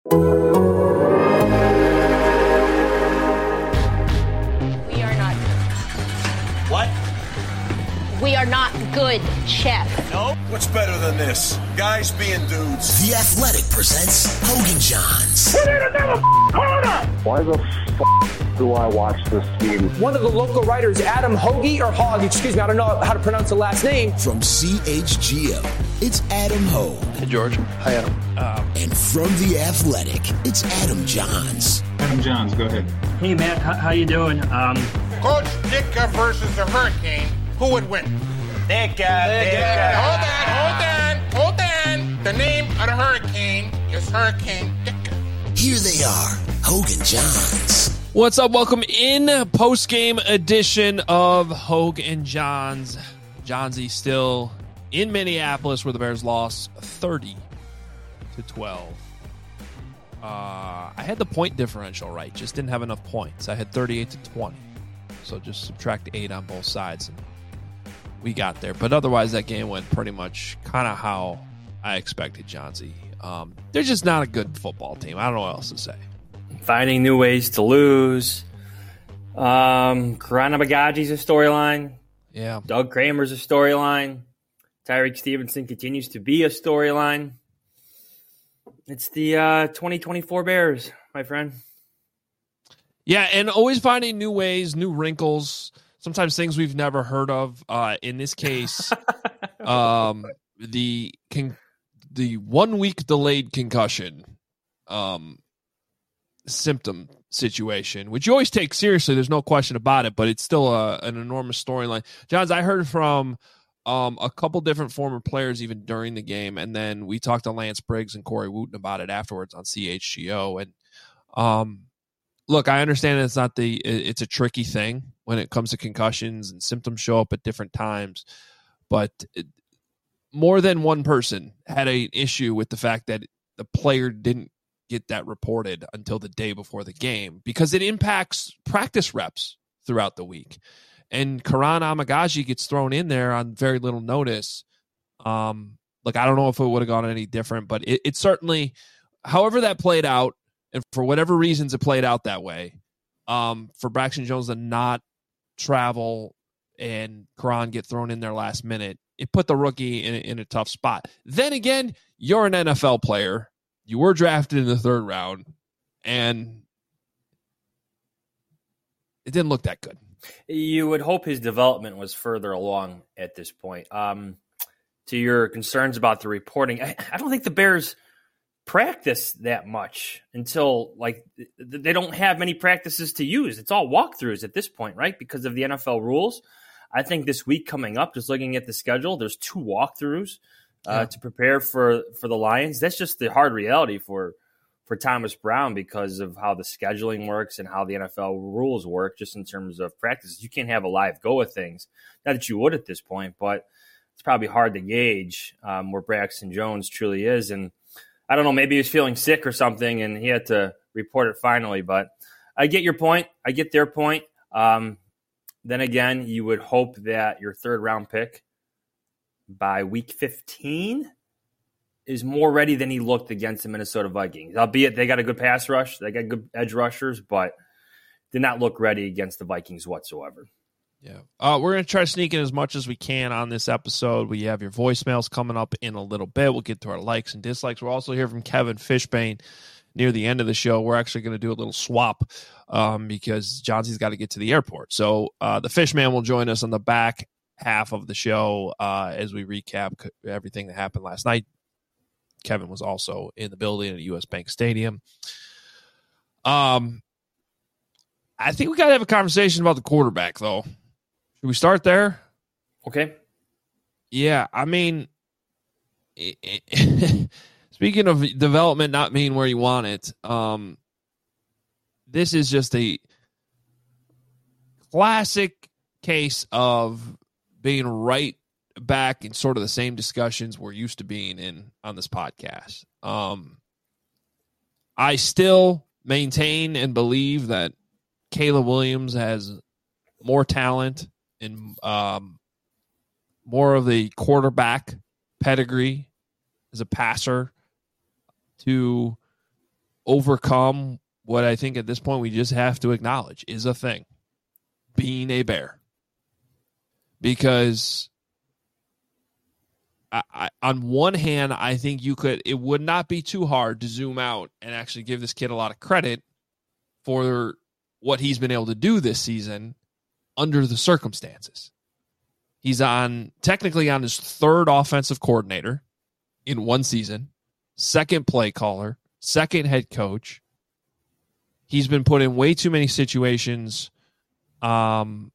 We are not. What? We are not good, Chef. No? What's better than this? Guys being dudes. The Athletic presents Hogan Johns. Why the f*** do I watch this team? One of the local writers, Adam Hoagie, or Hogg, excuse me, I don't know how to pronounce the last name. From CHGO, it's Adam Hogue. Hey, George. Hi, Adam. And from The Athletic, it's Adam Johns. Adam Johns, go ahead. Hey, Matt, how you doing? Coach Ditka versus the Hurricane, who would win? Ditka. Hold on. The name of the Hurricane is Hurricane Ditka. Here they are, Hogan Johns. What's up? Welcome in post-game edition of Hogue and Johns. Johnsy still in Minneapolis where the Bears lost 30-12. I had the point differential right, just didn't have enough points. I had 38-20, so just subtract 8 on both sides, and we got there. But otherwise, that game went pretty much kind of how I expected, Johnsy. They're just not a good football team. I don't know what else to say. Finding new ways to lose. Karana Bagaji's a storyline. Yeah. Doug Kramer's a storyline. Tyreek Stevenson continues to be a storyline. It's the 2024 Bears, my friend. Yeah, and always finding new ways, new wrinkles, sometimes things we've never heard of. In this case, the 1 week delayed concussion symptom situation, which you always take seriously. There's no question about it, but it's still an enormous storyline. Johns, I heard from a couple different former players even during the game, and then we talked to Lance Briggs and Corey Wooten about it afterwards on CHGO. And look, I understand it's a tricky thing when it comes to concussions and symptoms show up at different times, but more than one person had an issue with the fact that the player didn't get that reported until the day before the game because it impacts practice reps throughout the week. And Karan Amagaji gets thrown in there on very little notice. Look, I don't know if it would have gone any different, but it certainly, however that played out, and for whatever reasons it played out that way, for Braxton Jones to not travel and Karan get thrown in there last minute, it put the rookie in a tough spot. Then again, you're an NFL player. You were drafted in the 3rd round, and it didn't look that good. You would hope his development was further along at this point. To your concerns about the reporting, I don't think the Bears practice that much until they don't have many practices to use. It's all walkthroughs at this point, right? Because of the NFL rules. I think this week coming up, just looking at the schedule, there's 2 walkthroughs to prepare for the Lions. That's just the hard reality for Thomas Brown because of how the scheduling works and how the NFL rules work just in terms of practices. You can't have a live go of things. Not that you would at this point, but it's probably hard to gauge where Braxton Jones truly is. And I don't know, maybe he was feeling sick or something and he had to report it finally. But I get your point. I get their point. Then again, you would hope that your 3rd round pick by week 15 is more ready than he looked against the Minnesota Vikings. Albeit they got a good pass rush, they got good edge rushers, but did not look ready against the Vikings whatsoever. Yeah. We're going to try to sneak in as much as we can on this episode. We have your voicemails coming up in a little bit. We'll get to our likes and dislikes. We'll also hear from Kevin Fishbane near the end of the show. We're actually going to do a little swap because Johnsy's got to get to the airport. So the Fishman will join us on the back half of the show as we recap everything that happened last night. Kevin was also in the building at US Bank Stadium. I think we got to have a conversation about the quarterback, though. Should we start there? Okay. Yeah, I mean, speaking of development not being where you want it, this is just a classic case of being right back in sort of the same discussions we're used to being in on this podcast. I still maintain and believe that Caleb Williams has more talent and more of the quarterback pedigree as a passer to overcome what I think at this point we just have to acknowledge is a thing, being a Bear. Because I on one hand, I think it would not be too hard to zoom out and actually give this kid a lot of credit for what he's been able to do this season under the circumstances. He's technically on his third offensive coordinator in one season, second play caller, second head coach. He's been put in way too many situations, like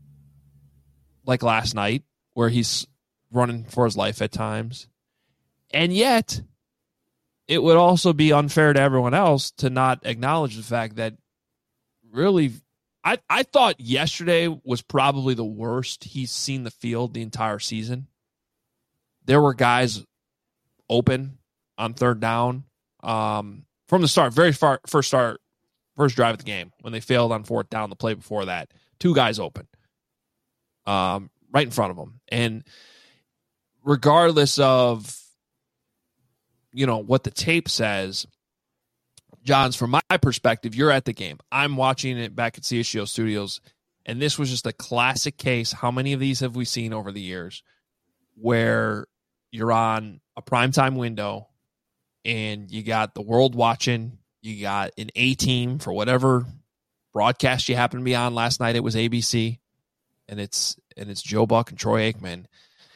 last night, where he's running for his life at times. And yet, it would also be unfair to everyone else to not acknowledge the fact that really, I thought yesterday was probably the worst he's seen the field the entire season. There were guys open on third down from the start, first drive of the game when they failed on fourth down. The play before that, two guys open, right in front of them, and regardless of what the tape says, Johns, from my perspective, you're at the game. I'm watching it back at CHGO Studios, and this was just a classic case. How many of these have we seen over the years where you're on a primetime window and you got the world watching, you got an A-team for whatever broadcast you happen to be on. Last night it was ABC, and it's Joe Buck and Troy Aikman,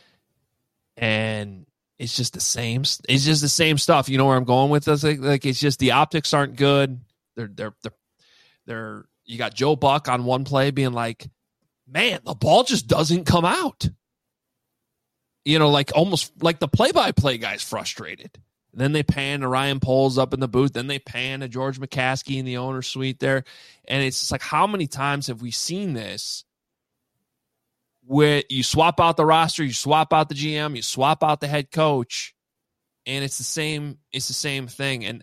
and it's just the same. It's just the same stuff. You know where I'm going with this? Like it's just the optics aren't good. They're you got Joe Buck on one play being like, man, the ball just doesn't come out. Like almost like the play-by-play guy's frustrated. And then they pan to Ryan Poles up in the booth. Then they pan to George McCaskey in the owner's suite there. And it's just like, how many times have we seen this where you swap out the roster, you swap out the GM, you swap out the head coach, and it's the same thing. And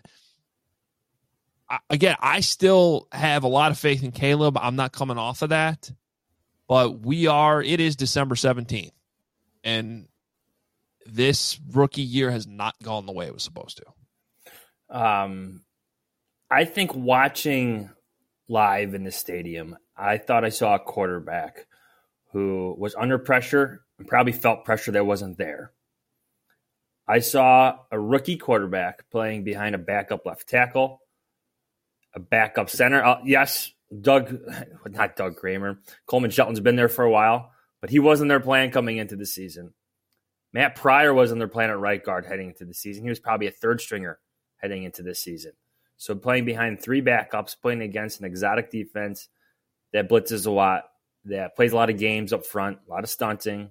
I still have a lot of faith in Caleb. I'm not coming off of that, but it is December 17th, and this rookie year has not gone the way it was supposed to. I think watching live in the stadium, I thought I saw a quarterback who was under pressure and probably felt pressure that wasn't there. I saw a rookie quarterback playing behind a backup left tackle, a backup center. Yes, not Doug Kramer. Coleman Shelton's been there for a while, but he wasn't their plan coming into the season. Matt Pryor wasn't their plan at right guard heading into the season. He was probably a third stringer heading into this season. So playing behind three backups, playing against an exotic defense that blitzes a lot, that plays a lot of games up front, a lot of stunting.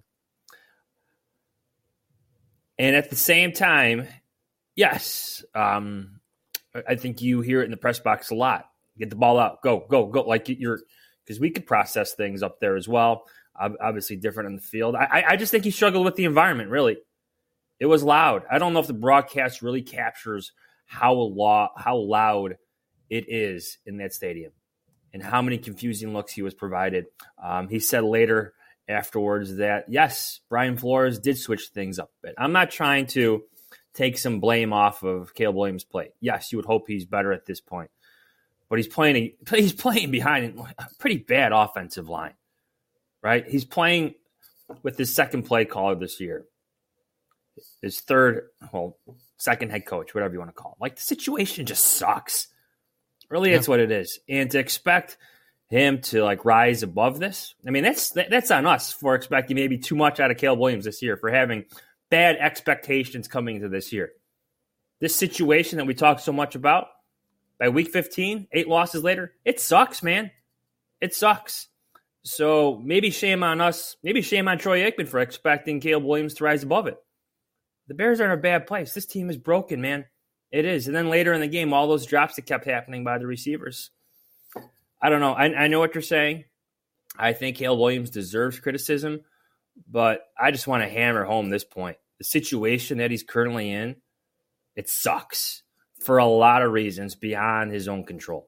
And at the same time, yes, I think you hear it in the press box a lot. Get the ball out. Go. Like because we could process things up there as well. Obviously different in the field. I just think he struggled with the environment, really. It was loud. I don't know if the broadcast really captures how loud it is in that stadium and how many confusing looks he was provided. He said later afterwards that, yes, Brian Flores did switch things up a bit. I'm not trying to take some blame off of Caleb Williams' play. Yes, you would hope he's better at this point. But he's playing behind a pretty bad offensive line, right? He's playing with his second play caller this year. His second head coach, whatever you want to call it. Like, the situation just sucks. Really, that's what it is. And to expect him to rise above this, I mean, that's on us for expecting maybe too much out of Caleb Williams this year, for having bad expectations coming into this year. This situation that we talk so much about, by week 15, 8 losses later, it sucks, man. It sucks. So maybe shame on us, maybe shame on Troy Aikman for expecting Caleb Williams to rise above it. The Bears are in a bad place. This team is broken, man. It is. And then later in the game, all those drops that kept happening by the receivers. I don't know. I know what you're saying. I think Caleb Williams deserves criticism, but I just want to hammer home this point. The situation that he's currently in, it sucks for a lot of reasons beyond his own control.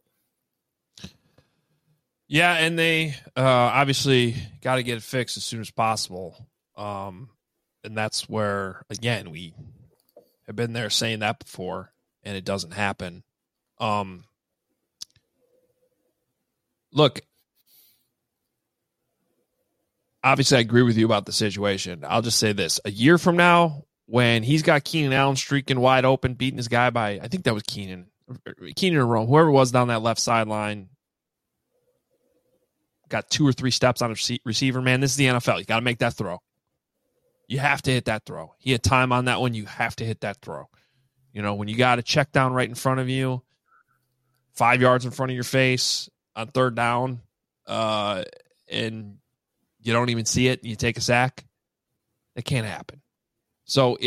Yeah, and they obviously got to get it fixed as soon as possible. And that's where, again, we have been there saying that before, and it doesn't happen. Look, obviously I agree with you about the situation. I'll just say this. A year from now, when he's got Keenan Allen streaking wide open, beating his guy by, I think that was Keenan or Rome, whoever it was down that left sideline, got 2 or 3 steps on a receiver. Man, this is the NFL. You got to make that throw. You have to hit that throw. He had time on that one. You have to hit that throw. You know, when you got a check down right in front of you, 5 yards in front of your face on third down, and you don't even see it, you take a sack, it can't happen. So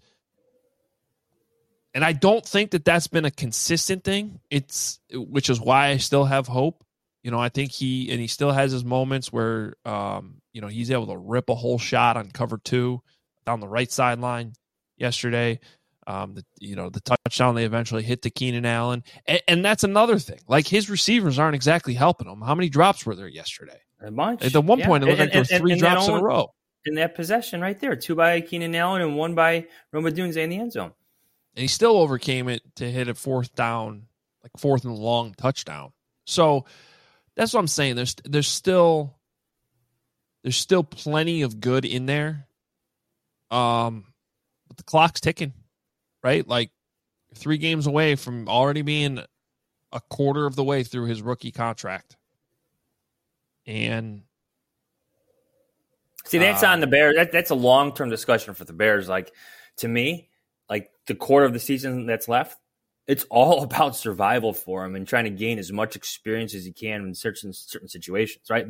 and I don't think that that's been a consistent thing. Which is why I still have hope. You know, I think he still has his moments where, he's able to rip a whole shot on cover 2 down the right sideline yesterday. The touchdown they eventually hit to Keenan Allen. And that's another thing. Like, his receivers aren't exactly helping him. How many drops were there yesterday? A bunch. At one point, it looked like there were 3 drops in a row. In that possession right there, 2 by Keenan Allen and 1 by Rome Odunze in the end zone. And he still overcame it to hit a 4th down, like 4th and long touchdown. So that's what I'm saying. There's still plenty of good in there. But the clock's ticking, right? Like, 3 games away from already being a quarter of the way through his rookie contract. And see, that's on the Bears. That's a long-term discussion for the Bears. Like, to me, like, the quarter of the season that's left, it's all about survival for him and trying to gain as much experience as he can in certain situations, right?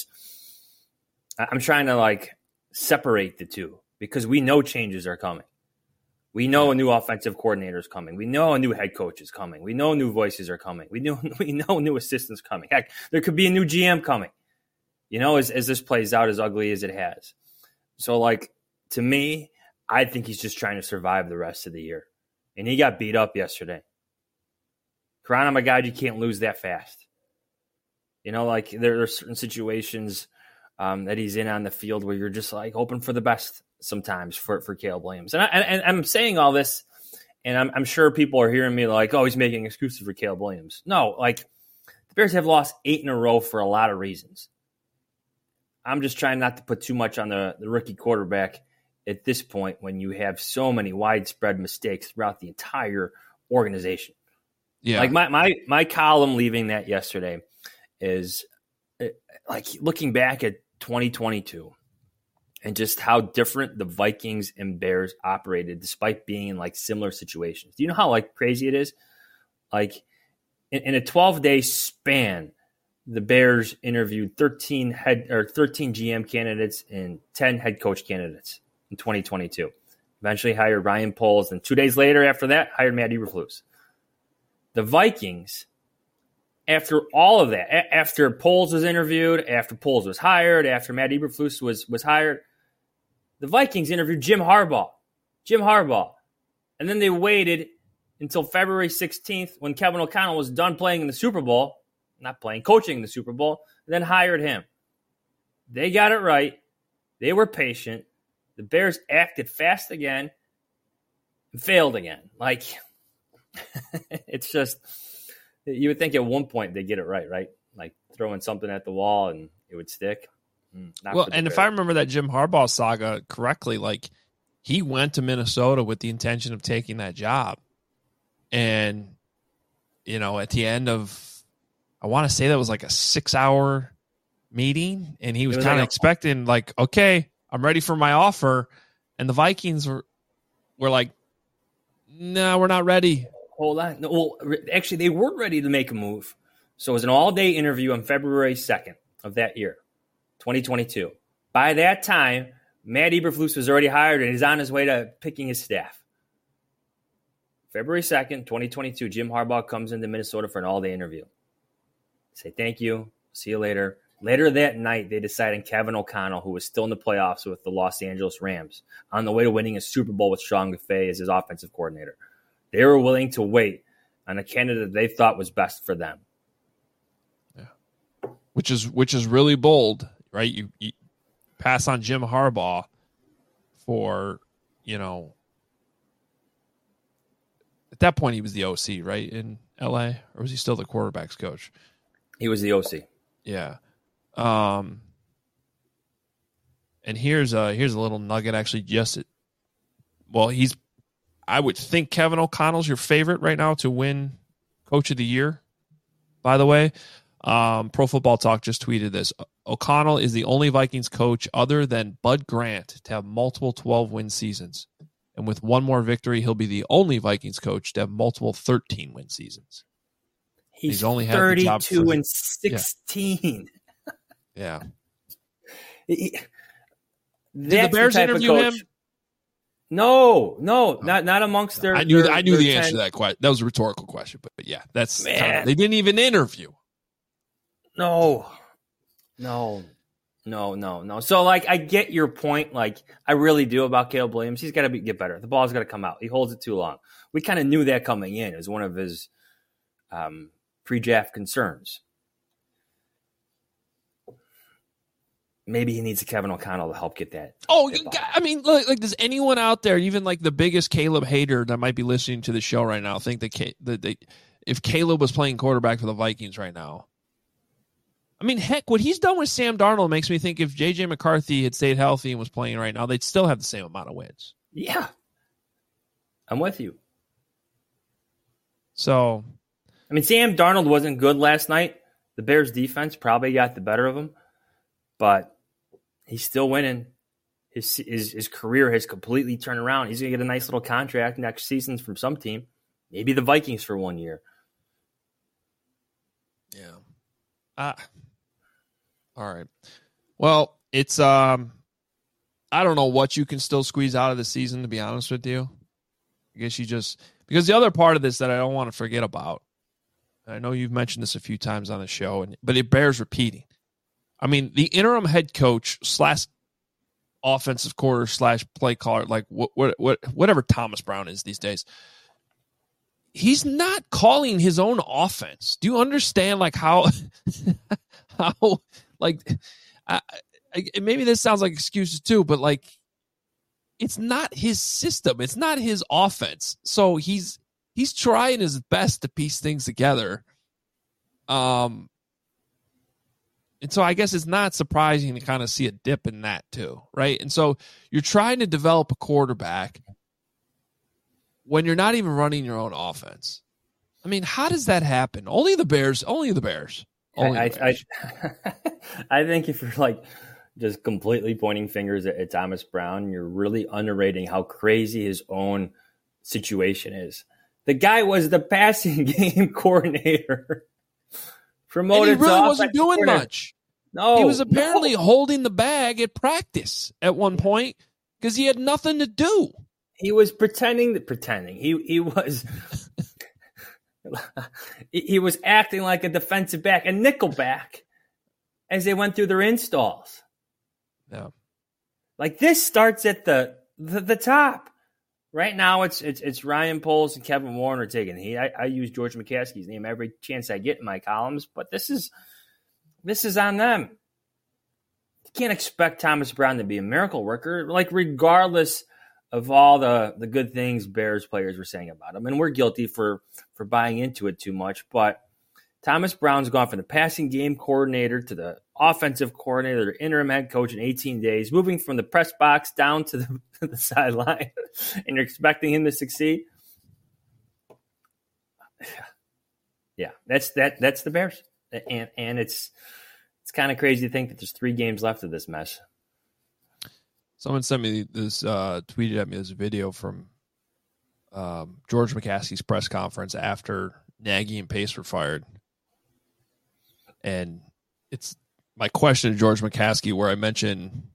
I'm trying to, like, separate the two because we know changes are coming. We know a new offensive coordinator is coming. We know a new head coach is coming. We know new voices are coming. We know new assistants coming. Heck, there could be a new GM coming. You know, as this plays out as ugly as it has. So, like, to me, I think he's just trying to survive the rest of the year. And he got beat up yesterday. Karan, my God, you can't lose that fast. You know, like, there are certain situations that he's in on the field where you're just, like, hoping for the best sometimes for Caleb Williams. And I'm saying all this, and I'm sure people are hearing me like, oh, he's making excuses for Caleb Williams. No, like, the Bears have lost 8 in a row for a lot of reasons. I'm just trying not to put too much on the rookie quarterback at this point when you have so many widespread mistakes throughout the entire organization. Yeah. Like, my column leaving that yesterday is, like, looking back at 2022 and just how different the Vikings and Bears operated despite being in, like, similar situations. Do you know how, like, crazy it is? Like, in a 12-day span, the Bears interviewed 13 GM candidates and 10 head coach candidates in 2022. Eventually hired Ryan Poles, and 2 days later after that, hired Matt Eberflus. The Vikings, after all of that, after Poles was interviewed, after Poles was hired, after Matt Eberflus was hired, the Vikings interviewed Jim Harbaugh. And then they waited until February 16th when Kevin O'Connell was done playing in the Super Bowl, coaching in the Super Bowl, and then hired him. They got it right. They were patient. The Bears acted fast again and failed again. Like, it's just, you would think at one point they'd get it right? Like, throwing something at the wall and it would stick. Well, and if I remember that Jim Harbaugh saga correctly, like, he went to Minnesota with the intention of taking that job. And, you know, at the end of, I want to say that was like a 6-hour meeting, and he was kind of expecting, like, okay, I'm ready for my offer. And the Vikings were like, no, we're not ready. Hold on. No, well, actually, they weren't ready to make a move. So it was an all-day interview on February 2nd of that year, 2022. By that time, Matt Eberflus was already hired, and he's on his way to picking his staff. February 2nd, 2022, Jim Harbaugh comes into Minnesota for an all-day interview. Say thank you. See you later. Later that night, they decided Kevin O'Connell, who was still in the playoffs with the Los Angeles Rams, on the way to winning a Super Bowl with Sean McVay as his offensive coordinator. They were willing to wait on a candidate they thought was best for them. Yeah, which is really bold, right? You pass on Jim Harbaugh for, you know, at that point he was the OC, right? L.A., or was he still the quarterback's coach? He was the OC. Yeah. And here's a little nugget. Actually, I would think Kevin O'Connell's your favorite right now to win Coach of the Year. By the way, Pro Football Talk just tweeted this. O'Connell is the only Vikings coach other than Bud Grant to have multiple 12-win seasons. And with one more victory, he'll be the only Vikings coach to have multiple 13-win seasons. He's only had 32 and 16. Yeah. Did the Bears interview him? No, not amongst their. I knew their the answer to that question. That was a rhetorical question, but yeah, that's they didn't even interview. No. So, like, I get your point. Like, I really do about Caleb Williams. He's got to get better. The ball's got to come out. He holds it too long. We kind of knew that coming in as one of his pre-draft concerns. Maybe he needs a Kevin O'Connell to help get that. Oh, I mean, like, does anyone out there, even like the biggest Caleb hater that might be listening to the show right now, think that if Caleb was playing quarterback for the Vikings right now? I mean, heck, what he's done with Sam Darnold makes me think if J.J. McCarthy had stayed healthy and was playing right now, they'd still have the same amount of wins. Yeah. I'm with you. So, I mean, Sam Darnold wasn't good last night. The Bears' defense probably got the better of him, but he's still winning. His career has completely turned around. He's going to get a nice little contract next season from some team, maybe the Vikings for 1 year. Yeah. All right. Well, it's I don't know what you can still squeeze out of the season, to be honest with you. I guess you just because the other part of this that I don't want to forget about. I know you've mentioned this a few times on the show, but it bears repeating. I mean, the interim head coach / offensive coordinator / play caller, like whatever Thomas Brown is these days, he's not calling his own offense. Do you understand like how like maybe this sounds like excuses too, but like it's not his system. It's not his offense. So he's trying his best to piece things together. And so I guess it's not surprising to kind of see a dip in that too, right? And so you're trying to develop a quarterback when you're not even running your own offense. I mean, how does that happen? Only the Bears. I think if you're like just completely pointing fingers at Thomas Brown, you're really underrating how crazy his own situation is. The guy was the passing game coordinator. Promoted and he really wasn't doing much. No. He was apparently holding the bag at practice at one point because he had nothing to do. He was pretending. He was he was acting like a defensive back, a nickel back, as they went through their installs. Yeah. Like this starts at the top. Right now, it's Ryan Poles and Kevin Warner taking heat. I use George McCaskey's name every chance I get in my columns, but this is on them. You can't expect Thomas Brown to be a miracle worker, like regardless of all the good things Bears players were saying about him. And we're guilty for buying into it too much, but Thomas Brown's gone from the passing game coordinator to the offensive coordinator to interim head coach in 18 days, moving from the press box down to the sideline, and you're expecting him to succeed. Yeah, that's the Bears, and it's kind of crazy to think that there's 3 games left of this mess. Someone sent me this, tweeted at me this video from George McCaskey's press conference after Nagy and Pace were fired. And it's my question to George McCaskey where I mentioned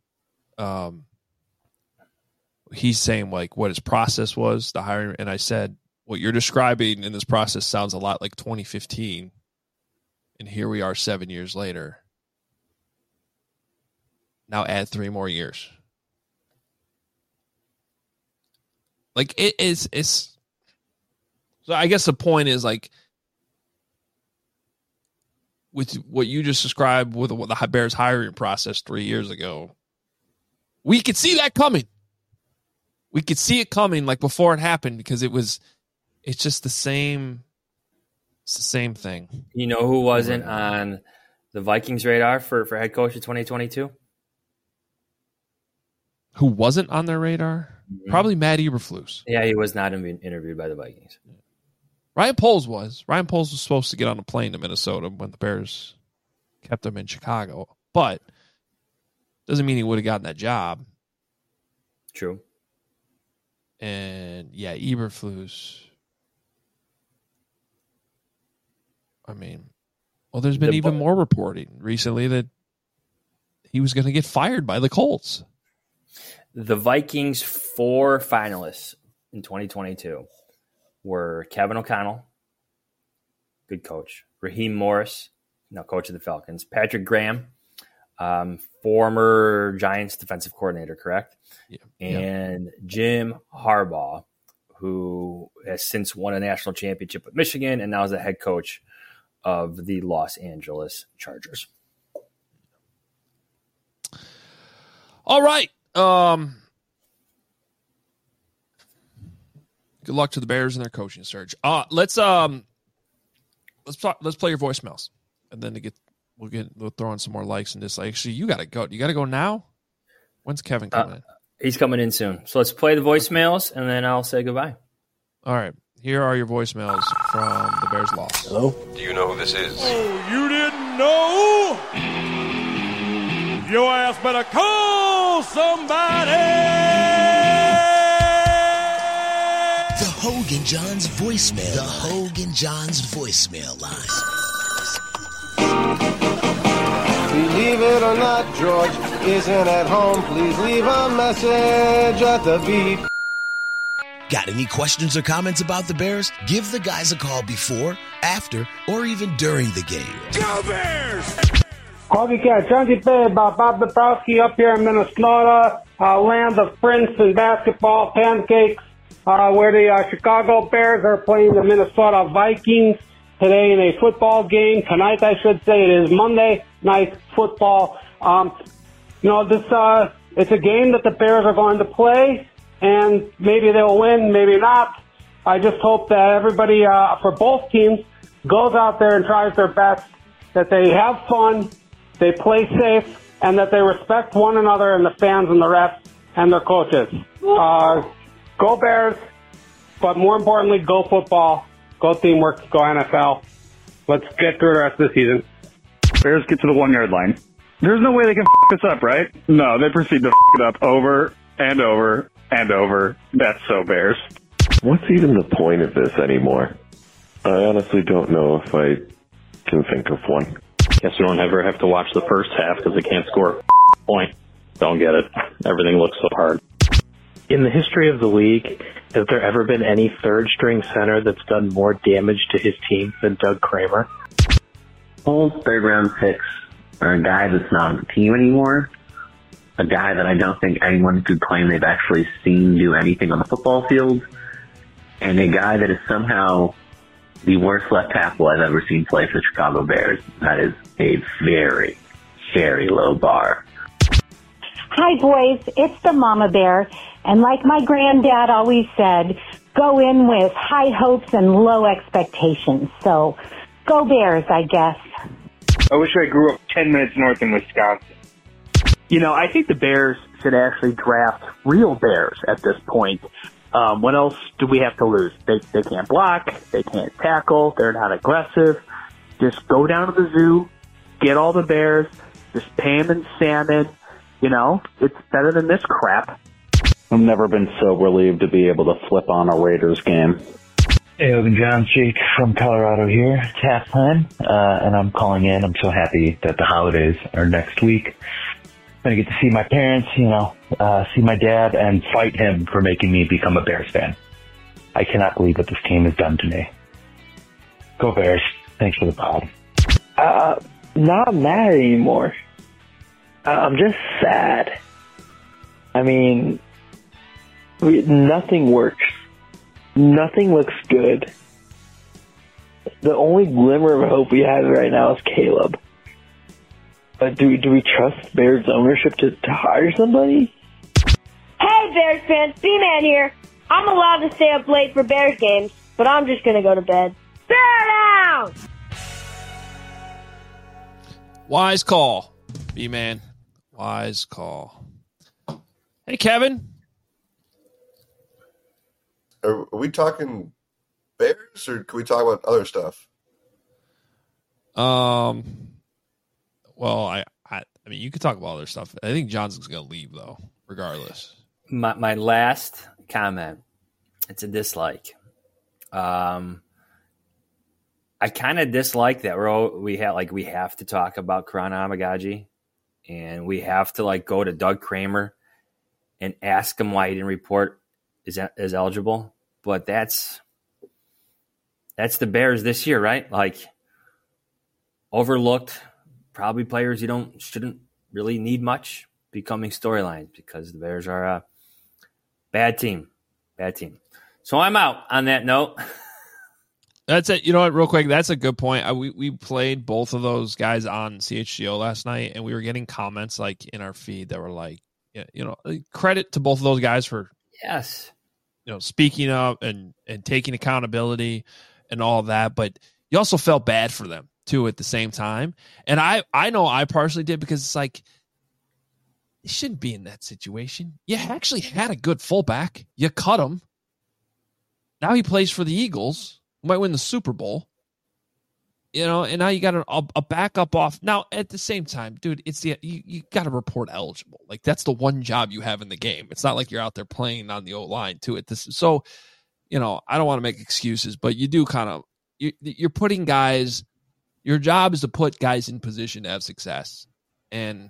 he's saying like what his process was, the hiring. And I said, what you're describing in this process sounds a lot like 2015. And here we are 7 years later. Now add 3 more years. Like it's so I guess the point is like with what you just described with the Bears hiring process 3 years ago, we could see that coming. We could see it coming like before it happened because it's just the same It's the same thing. You know who wasn't on the Vikings radar for head coach of 2022? Who wasn't on their radar? Mm-hmm. Probably Matt Eberflus. Yeah, he was not interviewed by the Vikings. Ryan Poles was. Ryan Poles was supposed to get on a plane to Minnesota when the Bears kept him in Chicago. But doesn't mean he would have gotten that job. True. And, yeah, Eberflus. I mean, well, there's been even more reporting recently that he was going to get fired by the Colts. The Vikings' 4 finalists in 2022 were Kevin O'Connell, good coach, Raheem Morris, now coach of the Falcons, Patrick Graham, former Giants defensive coordinator, correct? Yeah. And Jim Harbaugh, who has since won a national championship with Michigan and now is the head coach of the Los Angeles Chargers. All right. Good luck to the Bears in their coaching search. Let's play your voicemails, and then we'll throw in some more likes and dislikes. Actually, you got to go. You got to go now. When's Kevin coming in? He's coming in soon. So let's play the voicemails, and then I'll say goodbye. All right. Here are your voicemails from the Bears loss. Hello? Do you know who this is? Oh, you didn't know? Your ass better call somebody! The Hogan Johns voicemail. The Hogan Johns voicemail line. Believe it or not, George isn't at home. Please leave a message at the beep. Got any questions or comments about the Bears? Give the guys a call before, after, or even during the game. Go Bears! Hoggy Cat, Jonesy Bay, Bob Dabrowski up here in Minnesota, land of prince and basketball pancakes, where the Chicago Bears are playing the Minnesota Vikings today in a football game. Tonight, I should say, it is Monday night football. It's a game that the Bears are going to play, and maybe they'll win, maybe not. I just hope that everybody, for both teams, goes out there and tries their best, that they have fun, they play safe, and that they respect one another and the fans and the refs and their coaches. Go Bears, but more importantly, go football, go teamwork, go NFL. Let's get through the rest of the season. Bears get to the 1 yard line. There's no way they can f*** this up, right? No, they proceed to f*** it up over and over and over. That's so Bears. What's even the point of this anymore? I honestly don't know if I can think of one. Guess we don't ever have to watch the first half because they can't score a point. Don't get it. Everything looks so hard. In the history of the league, has there ever been any third-string center that's done more damage to his team than Doug Kramer? Whole third-round picks are a guy that's not on the team anymore, a guy that I don't think anyone could claim they've actually seen do anything on the football field, and a guy that is somehow the worst left tackle I've ever seen play for the Chicago Bears. That is a very, very low bar. Hi, boys. It's the Mama Bear. And like my granddad always said, go in with high hopes and low expectations. So, go Bears, I guess. I wish I grew up 10 minutes north in Wisconsin. I think the Bears should actually draft real Bears at this point. What else do we have to lose? They can't block. They can't tackle. They're not aggressive. Just go down to the zoo, get all the Bears, just pay them in salmon. It's better than this crap. I've never been so relieved to be able to flip on a Raiders game. Hey, Hogan John, Jake from Colorado here. It's halftime, and I'm calling in. I'm so happy that the holidays are next week. I'm going to get to see my parents, see my dad, and fight him for making me become a Bears fan. I cannot believe what this team has done to me. Go Bears. Thanks for the pod. Not mad anymore. I'm just sad. I mean, nothing works. Nothing looks good. The only glimmer of hope we have right now is Caleb. But do we trust Bears ownership to hire somebody? Hey, Bears fans, B-Man here. I'm allowed to stay up late for Bears games, but I'm just going to go to bed. Bear down! down. Wise call, B-Man. Wise call. Hey, Kevin. Are we talking Bears, or can we talk about other stuff? Well, I mean, you could talk about other stuff. I think Johnson's going to leave, though, regardless. My last comment, it's a dislike. I kind of dislike that we have to talk about Karan Amagaji, and we have to go to Doug Kramer and ask him why he didn't report is eligible. But that's the Bears this year, right? Overlooked, probably players you shouldn't really need much becoming storylines because the Bears are a bad team. So I'm out on that note. That's it. You know what? Real quick, that's a good point. We played both of those guys on CHGO last night, and we were getting comments in our feed that were credit to both of those guys for speaking up and taking accountability and all of that. But you also felt bad for them too at the same time. And I know I partially did because it's you shouldn't be in that situation. You actually had a good fullback. You cut him. Now he plays for the Eagles. Might win the Super Bowl, and now you got a backup off. Now, at the same time, dude, it's you got to report eligible. That's the one job you have in the game. It's not like you're out there playing on the O-line too. So, I don't want to make excuses, but you do you're putting guys. Your job is to put guys in position to have success, and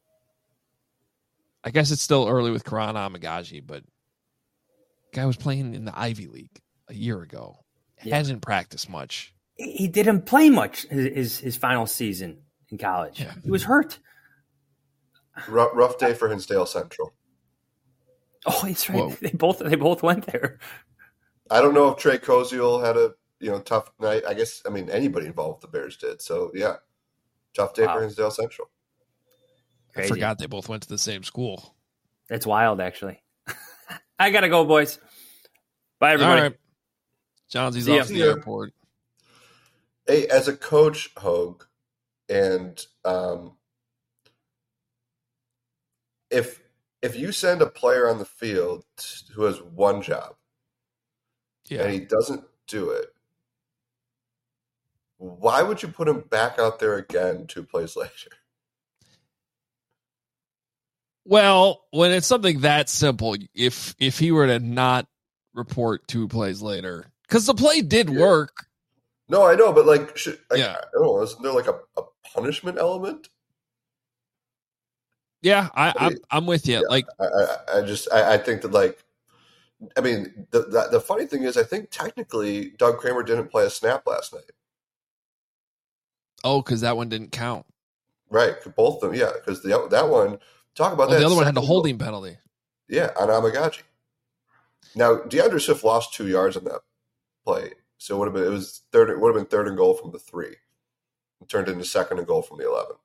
I guess it's still early with Karan Amagaji, but the guy was playing in the Ivy League a year ago. Hasn't practiced much. He didn't play much his final season in college. Yeah. He was hurt. Rough day for Hinsdale Central. Oh, that's right. Whoa. They both went there. I don't know if Trey Koziel had a tough night. I guess anybody involved with the Bears did. So yeah, tough day for Hinsdale Central. Crazy. I forgot they both went to the same school. That's wild, actually. I gotta go, boys. Bye, everybody. All right. Johnsy's off the airport. Hey, as a coach, Hogue, and if you send a player on the field who has one job, and he doesn't do it, why would you put him back out there again 2 plays later? Well, when it's something that simple, if he were to not report 2 plays later. Because the play did work. No, I know, but I don't know, isn't there a punishment element? Yeah, I'm with you. Yeah, I think that the funny thing is I think technically Doug Kramer didn't play a snap last night. Oh, because that one didn't count. Right, both of them. Yeah, because that one. Talk about that. The other one had a holding penalty. Yeah, on Amagaji. Now DeAndre Swift lost 2 yards on that play, so it would have been 3rd and goal from the 3. It turned into 2nd and goal from the 11.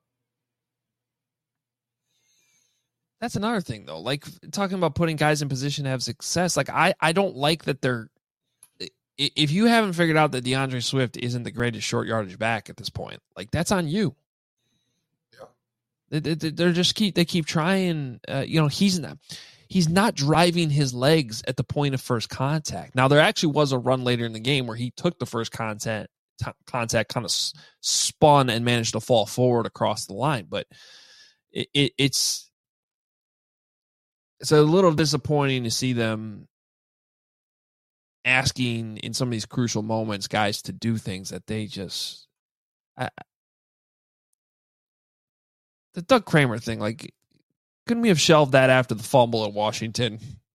That's another thing, though. Talking about putting guys in position to have success. I don't like that they're. If you haven't figured out that DeAndre Swift isn't the greatest short yardage back at this point, that's on you. Yeah, they keep trying. He's not driving his legs at the point of first contact. Now, there actually was a run later in the game where he took the first contact, kind of spun and managed to fall forward across the line. But it's a little disappointing to see them asking in some of these crucial moments guys to do things that they just... the Doug Kramer thing, couldn't we have shelved that after the fumble at Washington?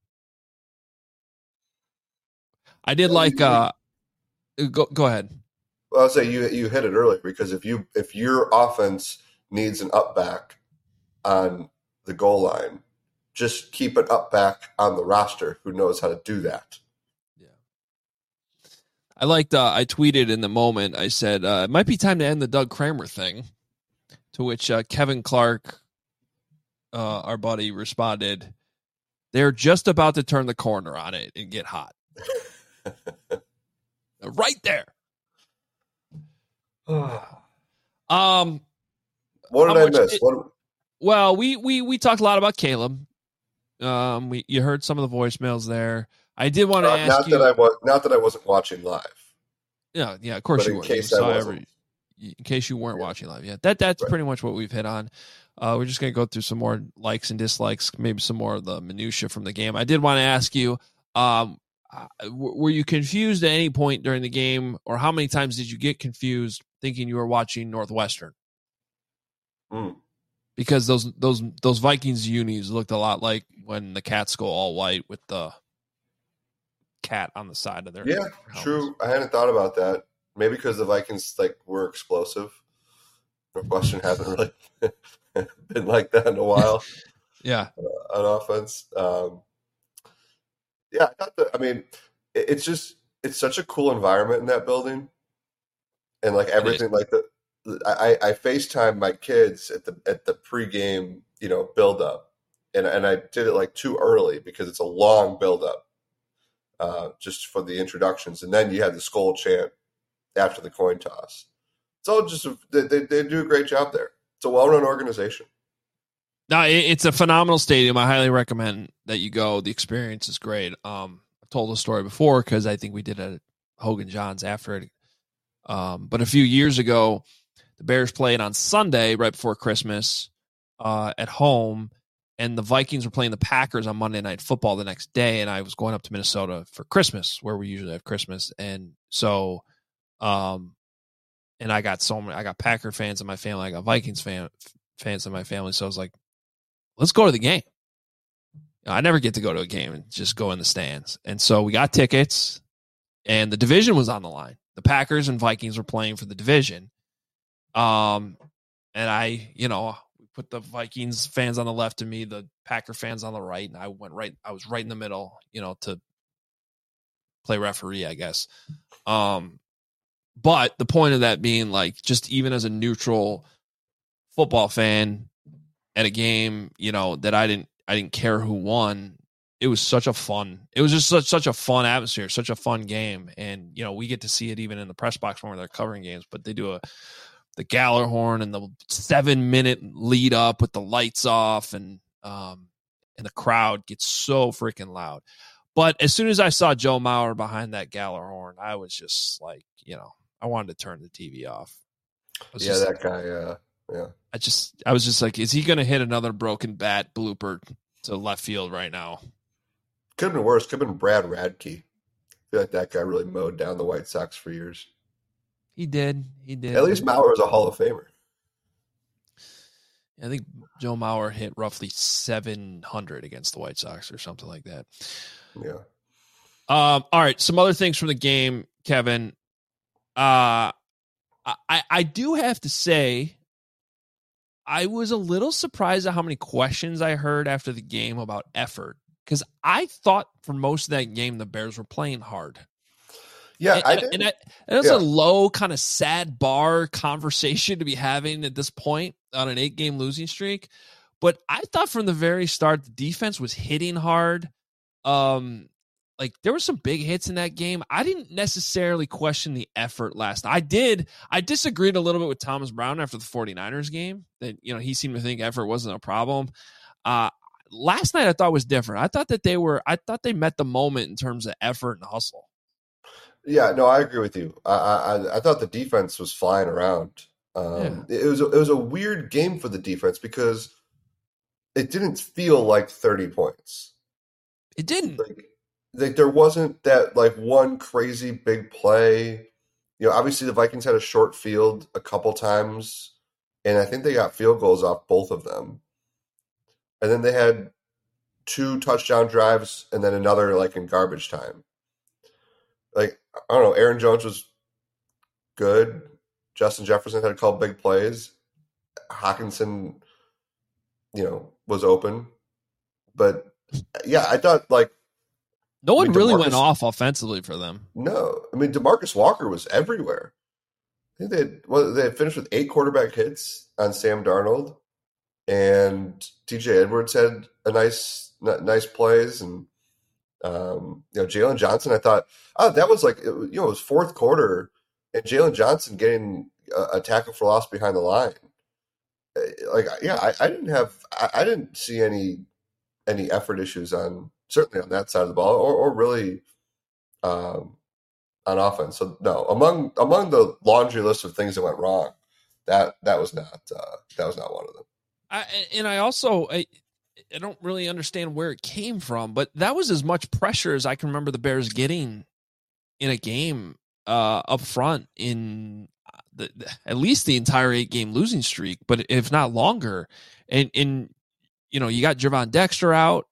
I did go ahead. Well, I'll say you hit it earlier because if your offense needs an up back on the goal line, just keep an up back on the roster who knows how to do that. Yeah. I tweeted in the moment, I said, it might be time to end the Doug Kramer thing, to which Kevin Clark, our buddy, responded, they're just about to turn the corner on it and get hot. Right there. What did I miss? Well, we talked a lot about Caleb. You heard some of the voicemails there. I did want to ask you. Not that I wasn't watching live. Yeah, of course but you were. In case you weren't watching live. Yeah, that's pretty much what we've hit on. We're just going to go through some more likes and dislikes, maybe some more of the minutia from the game. I did want to ask you, were you confused at any point during the game, or how many times did you get confused thinking you were watching Northwestern? Because those Vikings unis looked a lot like when the Cats go all white with the cat on the side of their helmets. True. I hadn't thought about that. Maybe because the Vikings were explosive. Northwestern hasn't really been like that in a while. Yeah, on offense. I thought that. I mean, it's such a cool environment in that building, and everything I FaceTime my kids at the pregame, build up, and I did it too early because it's a long build up, just for the introductions, and then you had the Skol chant after the coin toss. It's all just they do a great job there. It's a well run organization. No, it's a phenomenal stadium. I highly recommend that you go. The experience is great. I've told the story before because I think we did it at Hogan John's after it. But a few years ago, the Bears played on Sunday right before Christmas at home, and the Vikings were playing the Packers on Monday Night Football the next day, and I was going up to Minnesota for Christmas, where we usually have Christmas. And so and I got Packer fans in my family, I got Vikings fans in my family, so I was like, let's go to the game. I never get to go to a game and just go in the stands. And so we got tickets, and the division was on the line. The Packers and Vikings were playing for the division. And I, we put the Vikings fans on the left of me, the Packer fans on the right, and I was right in the middle, to play referee, I guess. But the point of that being, just even as a neutral football fan at a game, that I didn't care who won. It was such a fun atmosphere, such a fun game. And, we get to see it even in the press box when they're covering games, but they do the Gallagher and the 7-minute lead up with the lights off, and the crowd gets so freaking loud. But as soon as I saw Joe Mauer behind that Gallagher, I was just I wanted to turn the TV off. That guy. Yeah. I was just like, is he going to hit another broken bat blooper to left field right now? Could have been worse. Could have been Brad Radke. I feel like that guy really mowed down the White Sox for years. He did. At least Mauer is a Hall of Famer. I think Joe Mauer hit roughly 700 against the White Sox or something like that. Yeah. All right. Some other things from the game, Kevin. I do have to say, I was a little surprised at how many questions I heard after the game about effort, because I thought for most of that game the Bears were playing hard. Yeah, that's a low kind of sad bar conversation to be having at this point on an 8-game losing streak. But I thought from the very start the defense was hitting hard. There were some big hits in that game. I didn't necessarily question the effort last night. I disagreed a little bit with Thomas Brown after the 49ers game that, he seemed to think effort wasn't a problem. Last night I thought was different. I thought they met the moment in terms of effort and hustle. Yeah, no, I agree with you. I thought the defense was flying around. It was a weird game for the defense because it didn't feel like 30 points. It didn't. There wasn't that one crazy big play. Obviously the Vikings had a short field a couple times, and I think they got field goals off both of them. And then they had 2 touchdown drives and then another in garbage time. I don't know, Aaron Jones was good. Justin Jefferson had a couple big plays. Hawkinson, was open. But yeah, I thought no one really went off offensively for them. No. I mean, DeMarcus Walker was everywhere. I think they had finished with 8 quarterback hits on Sam Darnold, and TJ Edwards had a nice plays, and Jalen Johnson. I thought, that was it was fourth quarter, and Jalen Johnson getting a tackle for loss behind the line. I didn't see any effort issues certainly on that side of the ball or really on offense. So no, among the laundry list of things that went wrong, that was not one of them. I don't really understand where it came from, but that was as much pressure as I can remember the Bears getting in a game up front in at least the entire 8-game losing streak, but if not longer. And you got Gervon Dexter out.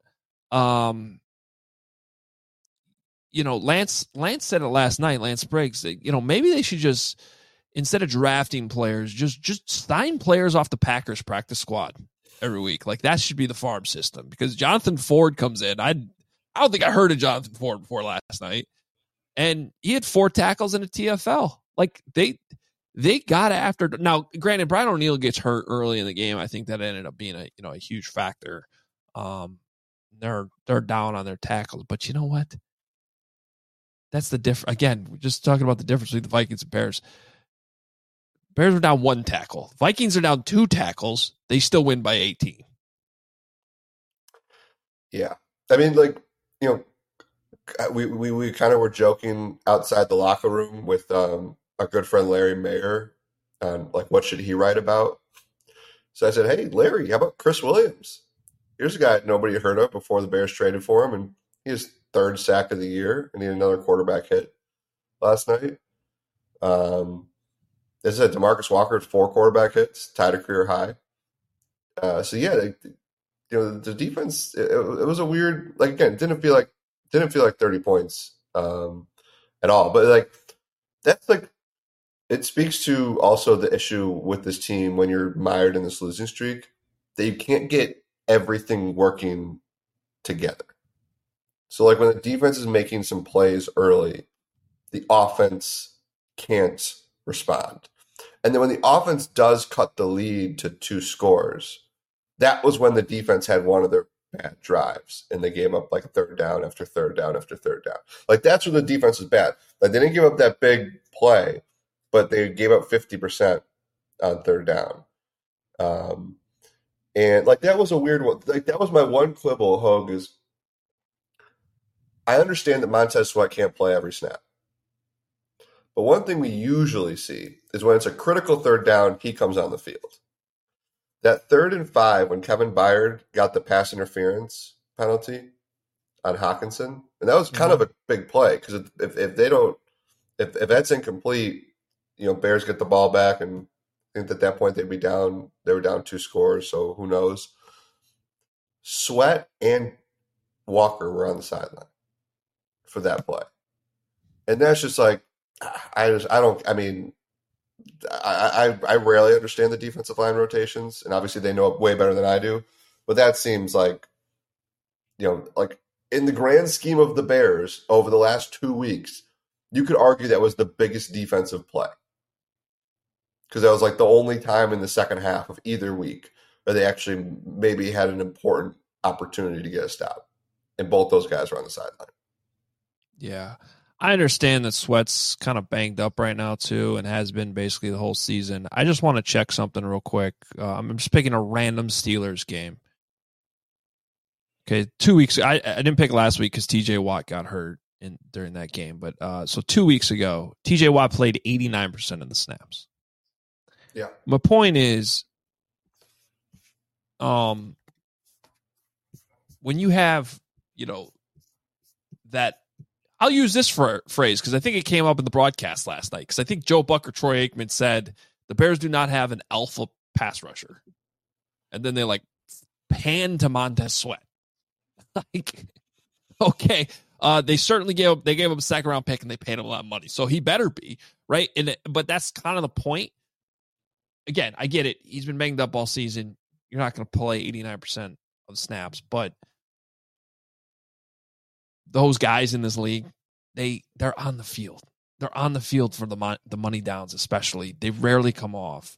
Lance said it last night, Lance Briggs, maybe they should just, instead of drafting players, just sign players off the Packers practice squad every week. Like, that should be the farm system, because Jonathan Ford comes in. I don't think I heard of Jonathan Ford before last night, and he had 4 tackles in a TFL. Like, they got after. Now, granted, Brian O'Neill gets hurt early in the game. I think that ended up being a huge factor. They're down on their tackles, but you know what? That's the difference. Again, we're just talking about the difference between the Vikings and Bears. Bears are down 1 tackle. Vikings are down 2 tackles. They still win by 18. Yeah. I mean, we kind of were joking outside the locker room with our good friend Larry Mayer on, what should he write about? So I said, hey, Larry, how about Chris Williams? Here's a guy nobody heard of before the Bears traded for him, and he has 3rd sack of the year, and he had another quarterback hit last night. This is DeMarcus Walker had 4 quarterback hits, tied a career high. The defense, it was a weird, again, it didn't feel like 30 points at all. But that's it speaks to also the issue with this team when you're mired in this losing streak, that you can't get everything working together. So when the defense is making some plays early, the offense can't respond. And then when the offense does cut the lead to 2 scores, that was when the defense had one of their bad drives, and they gave up 3rd down after 3rd down after 3rd down. That's when the defense was bad. They didn't give up that big play, but they gave up 50% on 3rd down. And that was a weird one. That was my one quibble, Hogue, is I understand that Montez Sweat can't play every snap. But one thing we usually see is when it's a critical 3rd down, he comes on the field. That 3rd and 5, when Kevin Byard got the pass interference penalty on Hockenson, and that was kind of a big play, because if that's incomplete, Bears get the ball back, and I think at that point they were down 2 scores, so who knows. Sweat and Walker were on the sideline for that play. And that's just I rarely understand the defensive line rotations, and obviously they know it way better than I do. But that seems in the grand scheme of the Bears over the last 2 weeks, you could argue that was the biggest defensive play, because that was the only time in the second half of either week where they actually maybe had an important opportunity to get a stop, and both those guys were on the sideline. Yeah. I understand that Sweat's kind of banged up right now, too, and has been basically the whole season. I just want to check something real quick. I'm just picking a random Steelers game. Okay, 2 weeks. I didn't pick last week because TJ Watt got hurt during that game. But so 2 weeks ago, TJ Watt played 89% of the snaps. Yeah. My point is, when you have, that. I'll use this phrase because I think it came up in the broadcast last night, because I think Joe Buck or Troy Aikman said the Bears do not have an alpha pass rusher. And then they pan to Montez Sweat. Okay. They certainly gave up a 2nd round pick, and they paid him a lot of money. So he better be, right? But that's kind of the point. Again, I get it. He's been banged up all season. You're not going to play 89% of snaps, but those guys in this league, they're on the field. They're on the field for the money downs, especially. They rarely come off.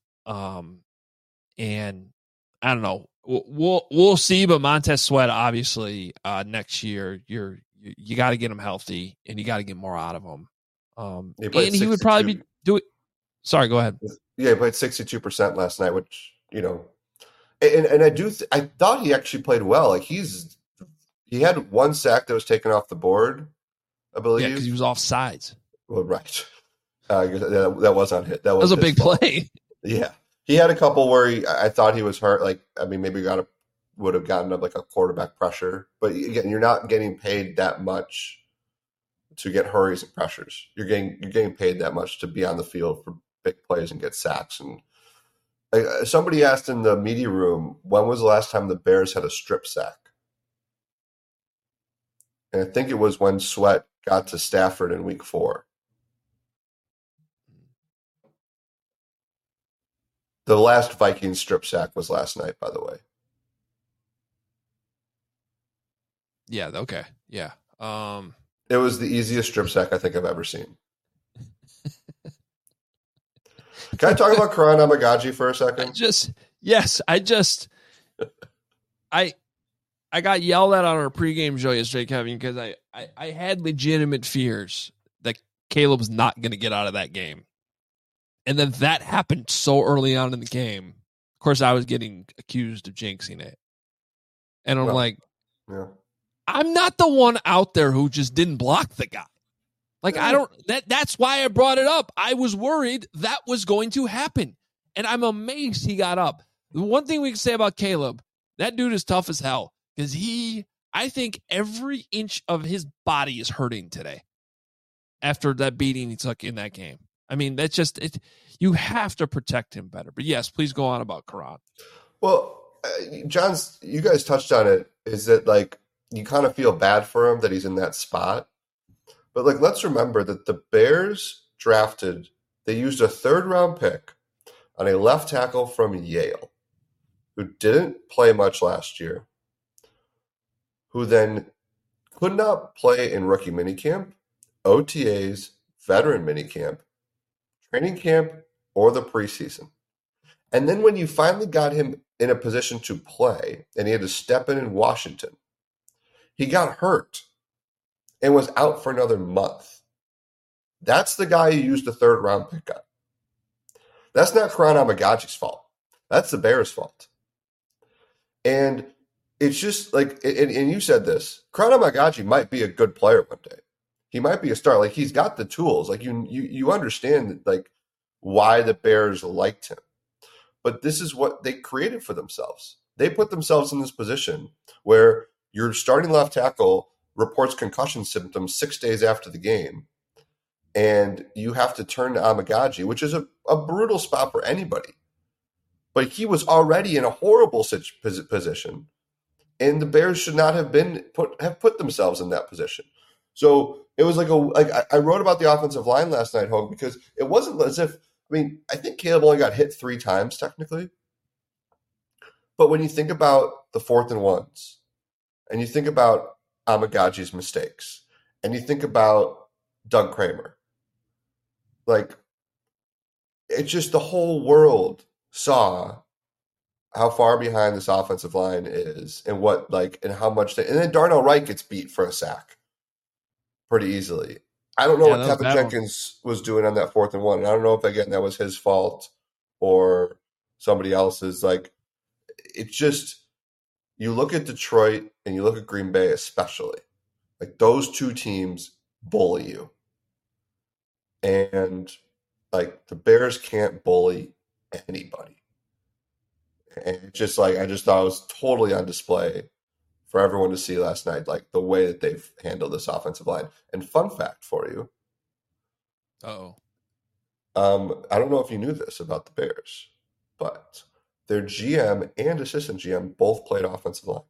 And I don't know. We'll see. But Montez Sweat, obviously, next year, you got to get him healthy, and you got to get more out of him. And he would probably be doing. Sorry, go ahead. Yeah, he played 62% last night, which, and I thought he actually played well. Like he had one sack that was taken off the board, I believe. Yeah, because he was offsides. Well, right. That was on hit. That was a big fault. play. Yeah. He had a couple where I thought he was hurt. Like, I mean, maybe would have gotten up like a quarterback pressure. But again, you're not getting paid that much to get hurries and pressures. You're getting paid that much to be on the field for big plays and get sacks. And somebody asked in the media room, when was the last time the Bears had a strip sack? And I think it was when Sweat got to Stafford in week 4. The last Vikings strip sack was last night, by the way. Yeah, okay. Yeah. It was the easiest strip sack I think I've ever seen. Can I talk about Karan Amagaji for a second? I got yelled at on our pregame show yesterday, Kevin, because I had legitimate fears that Caleb was not going to get out of that game. And then that happened so early on in the game. Of course, I was getting accused of jinxing it. And I'm I'm not the one out there who just didn't block the guy. Like, that's why I brought it up. I was worried that was going to happen. And I'm amazed he got up. The one thing we can say about Caleb, that dude is tough as hell. Because I think every inch of his body is hurting today after that beating he took in that game. I mean, that's just it. You have to protect him better. But yes, please go on about Karan. Well, John's, you guys touched on it. Is that like you kind of feel bad for him that he's in that spot? But like, let's remember that the Bears they used a 3rd-round pick on a left tackle from Yale, who didn't play much last year, who then could not play in rookie minicamp, OTAs, veteran minicamp, training camp, or the preseason. And then when you finally got him in a position to play and he had to step in Washington, he got hurt and was out for another month. That's the guy you used the 3rd-round pick on. That's not Karan Amagaji's fault. That's the Bears' fault. And it's just like, and you said this, Karan Amagaji might be a good player one day. He might be a star. Like, he's got the tools. Like, you understand, like, why the Bears liked him. But this is what they created for themselves. They put themselves in this position where your starting left tackle reports concussion symptoms 6 days after the game, and you have to turn to Amagaji, which is a brutal spot for anybody. But he was already in a horrible position, and the Bears should not have put themselves in that position. So it was I wrote about the offensive line last night, Hogue, because it wasn't as if, I think Caleb only got hit 3 times technically. But when you think about the 4th and 1s, and you think about Amagaji's mistakes, and you think about Doug Kramer, like, it's just the whole world saw how far behind this offensive line is and and how much and then Darnell Wright gets beat for a sack pretty easily. I don't know what Kevin Jenkins was doing on that 4th and 1. And I don't know if, again, that was his fault or somebody else's. Like, it's just, you look at Detroit and you look at Green Bay especially. Like, those 2 teams bully you. And, like, the Bears can't bully anybody. And it's just like, I just thought it was totally on display for everyone to see last night, like the way that they've handled this offensive line. And fun fact for you. I don't know if you knew this about the Bears, but their GM and assistant GM both played offensive line.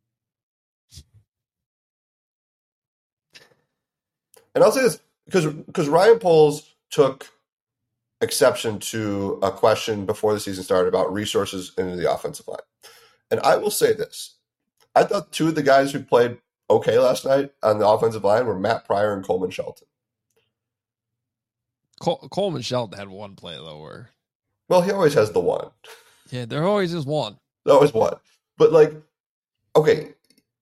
And I'll say this because Ryan Poles took exception to a question before the season started about resources into the offensive line. And I will say this. I thought 2 of the guys who played okay last night on the offensive line were Matt Pryor and Coleman Shelton. Coleman Shelton had one play, though, Well, he always has the one. Yeah, there always is one. There's always one. But, like, okay,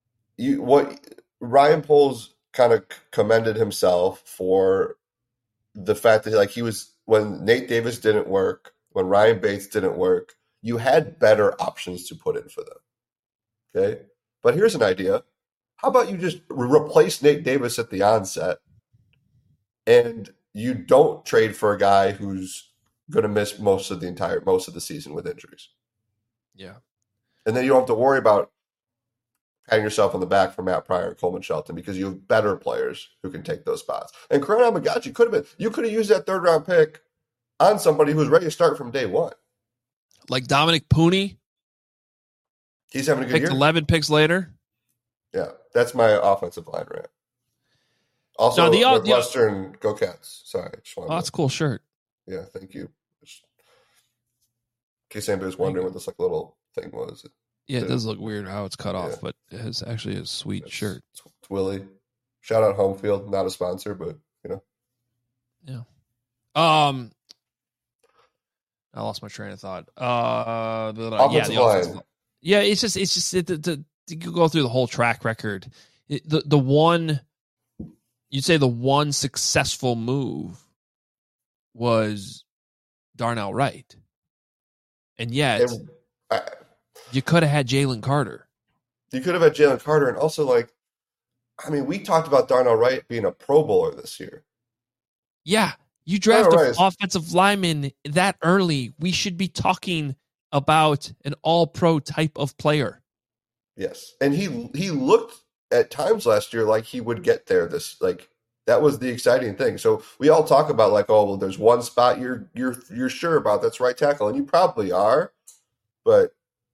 Ryan Poles kind of commended himself for the fact that like he was when Nate Davis didn't work, when Ryan Bates didn't work, you had better options to put in for them. Okay, but here's an idea: how about you just replace Nate Davis at the onset, and you don't trade for a guy who's going to miss most of the season with injuries. Yeah, and then you don't have to worry about patting yourself on the back for Matt Pryor and Coleman Shelton because you have better players who can take those spots. And Karan Amagachi you could have used that 3rd round pick on somebody who's ready to start from day one. Like Dominic Pooney. He's having a good year. 11 picks later. Yeah, that's my offensive line rant. Also, Northwestern, go Cats. Sorry. That's a cool shirt. Yeah, thank you. In case anybody's wondering what this like little thing was. Yeah, it does look weird how it's cut off, but it has actually a sweet shirt. It's Willie. Shout out Home Field, not a sponsor, but Yeah. I lost my train of thought. Offensive line. Yeah, it's just to go through the whole track record. The one you'd say the one successful move was Darnell Wright, and yet you could have had Jalen Carter. You could have had Jalen Carter, and also we talked about Darnell Wright being a Pro Bowler this year. Yeah, you draft an offensive lineman that early. We should be talking about an all-pro type of player. Yes, and he looked at times last year like he would get there. That was the exciting thing. So we all talk about there's one spot you're sure about, that's right tackle, and you probably are, but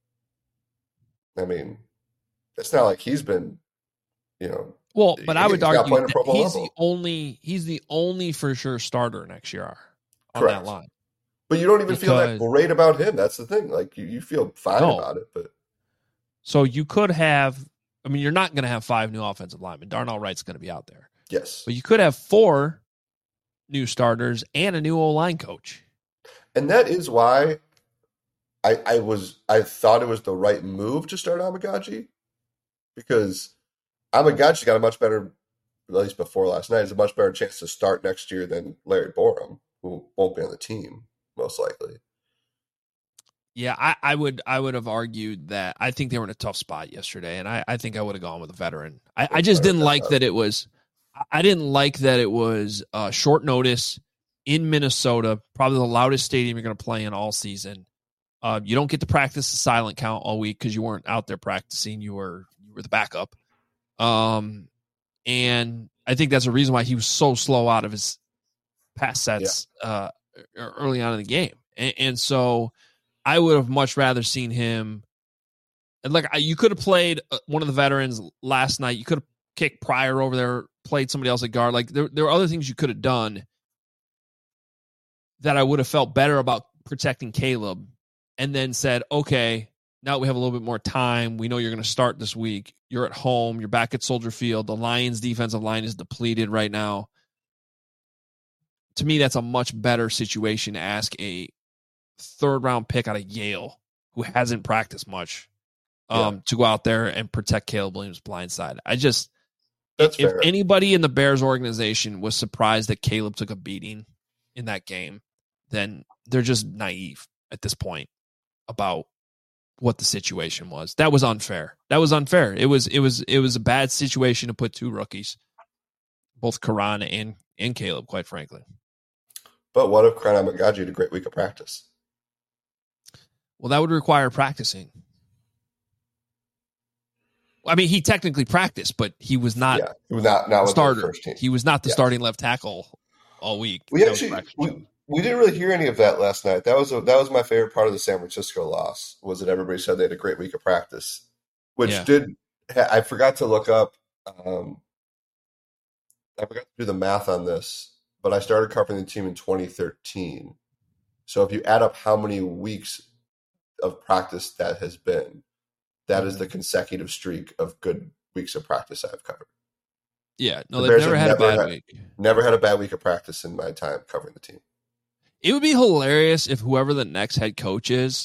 it's not like he's been, Well, but I would argue that he's the only for sure starter next year on Correct. that line. But you don't even feel that great about him. That's the thing. You feel fine about it, but so you could have. You're not going to have 5 new offensive linemen. Darnell Wright's going to be out there. Yes, but you could have 4 new starters and a new O-line coach. And that is why I thought it was the right move to start Amagachi, because Amagachi's got a much better, at least before last night, has a much better chance to start next year than Larry Borum, who won't be on the team most likely. Yeah, I would have argued that I think they were in a tough spot yesterday, and I think I would have gone with a veteran. I just didn't like that it was. I didn't like that it was short notice in Minnesota, probably the loudest stadium you're going to play in all season. You don't get to practice the silent count all week because you weren't out there practicing. You were the backup. And I think that's a reason why he was so slow out of his pass sets early on in the game. And so I would have much rather seen him. You could have played one of the veterans last night. You could have kicked Pryor over there, played somebody else at guard. There were other things you could have done that I would have felt better about protecting Caleb, and then said, okay, now we have a little bit more time. We know you're going to start this week. You're at home. You're back at Soldier Field. The Lions' defensive line is depleted right now. To me, that's a much better situation to ask a 3rd-round pick out of Yale who hasn't practiced much to go out there and protect Caleb Williams' blind side. If anybody in the Bears organization was surprised that Caleb took a beating in that game, then they're just naive at this point about what the situation was. That was unfair. It was a bad situation to put 2 rookies, both Karan and Caleb, quite frankly. But what if Karan Amagachi had a great week of practice? Well, that would require practicing. He technically practiced, but he was not. Yeah, he was not starter. The first team. He was not the starting left tackle all week. We didn't really hear any of that last night. That was my favorite part of the San Francisco loss, was that everybody said they had a great week of practice, which I forgot to look up. I forgot to do the math on this, but I started covering the team in 2013. So if you add up how many weeks of practice that has been, that is the consecutive streak of good weeks of practice I've covered. Yeah, no, they've never had a bad week. Never had a bad week of practice in my time covering the team. It would be hilarious if whoever the next head coach is,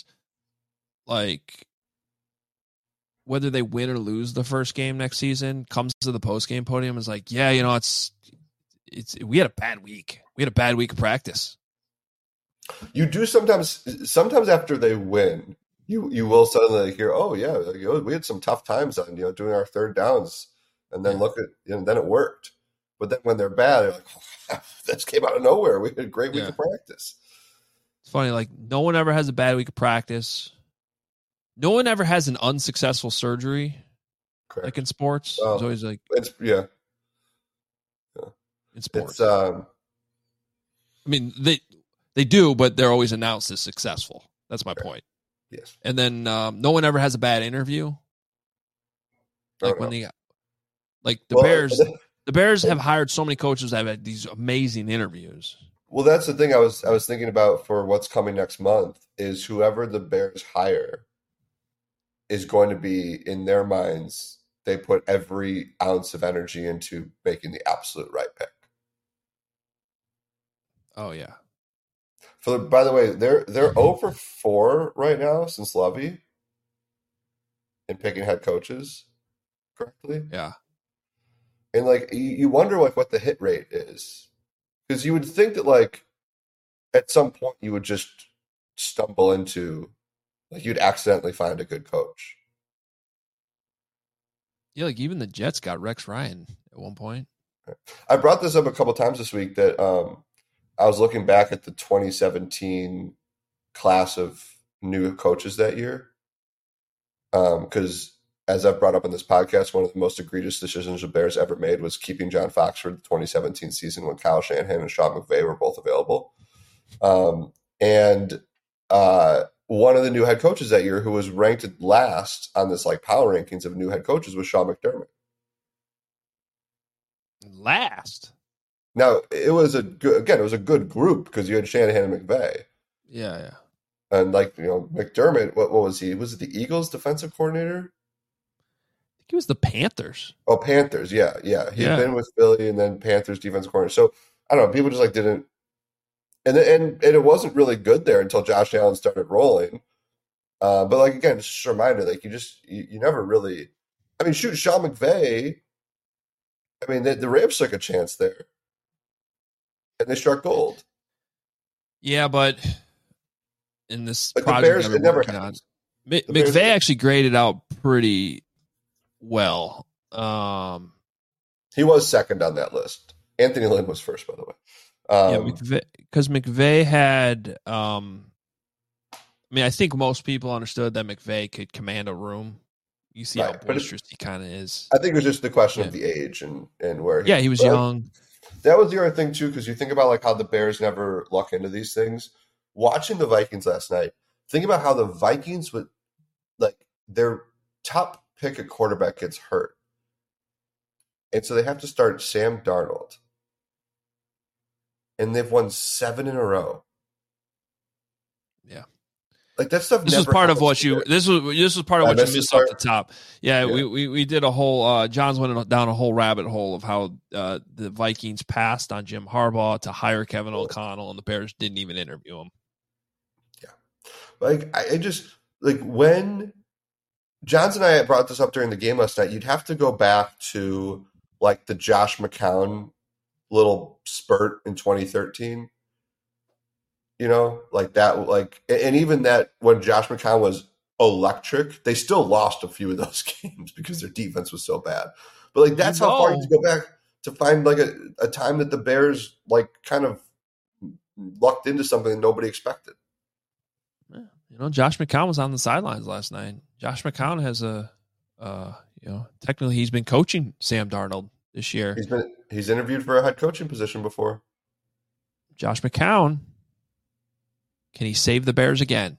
whether they win or lose the first game next season, comes to the post-game podium and is like, it's we had a bad week. We had a bad week of practice. You do sometimes after they win, you will suddenly hear, oh yeah, we had some tough times on doing our third downs, and then then it worked. But then when they're bad, they're like, oh, that just came out of nowhere. We had a great week of practice. It's funny, like no one ever has a bad week of practice. No one ever has an unsuccessful surgery. Correct. Like in sports. It's always like in sports. I mean, they do, but they're always announced as successful. That's my point. Yes. And then no one ever has a bad interview. Like Bears. The Bears have hired so many coaches that have had these amazing interviews. Well, that's the thing I was thinking about for what's coming next month is whoever the Bears hire is going to be, in their minds, they put every ounce of energy into making the absolute right pick. Oh, yeah. By the way, they're 0-4 right now since Lovey in picking head coaches correctly. Yeah. And like you wonder what the hit rate is, because you would think that at some point you would just stumble into you'd accidentally find a good coach. Yeah, like even the Jets got Rex Ryan at one point. I brought this up a couple times this week that I was looking back at the 2017 class of new coaches that year, because as I've brought up in this podcast, one of the most egregious decisions the Bears ever made was keeping John Fox for the 2017 season when Kyle Shanahan and Sean McVay were both available. And one of the new head coaches that year who was ranked last on this power rankings of new head coaches was Sean McDermott. Last? Now, it was a good group because you had Shanahan and McVay. Yeah. And McDermott, what was he? Was it the Eagles defensive coordinator? I think he was the Panthers. Oh, Panthers, yeah. He'd been with Philly and then Panthers defensive coordinator. So I don't know, people just didn't, and it wasn't really good there until Josh Allen started rolling. But again, just a reminder, you never really. I mean, shoot, Sean McVay. I mean, the Rams took a chance there, and they struck gold. Yeah, but in this project, the Bears, it never happened. McVay actually graded out pretty well. He was second on that list. Anthony Lynn was first, by the way. Because McVay had. I think most people understood that McVay could command a room. You see how boisterous he kind of is. I think it was just the question of the age and where he. Yeah, he was young. That was the other thing too, because you think about how the Bears never luck into these things. Watching the Vikings last night, think about how the Vikings would their top pick at quarterback gets hurt, and so they have to start Sam Darnold, and they've won 7 in a row. Yeah, that stuff. This was part of what you. This was part of what you missed off the top. Yeah, we did a whole. John's went down a whole rabbit hole of how the Vikings passed on Jim Harbaugh to hire Kevin O'Connell, and the Bears didn't even interview him. Yeah, I just when Johns and I brought this up during the game last night. You'd have to go back to the Josh McCown little spurt in 2013. And even that when Josh McCown was electric, they still lost a few of those games because their defense was so bad. But that's how far you go back to find a time that the Bears kind of lucked into something that nobody expected. Josh McCown was on the sidelines last night. Josh McCown has technically he's been coaching Sam Darnold this year. He's interviewed for a head coaching position before. Josh McCown, can he save the Bears again?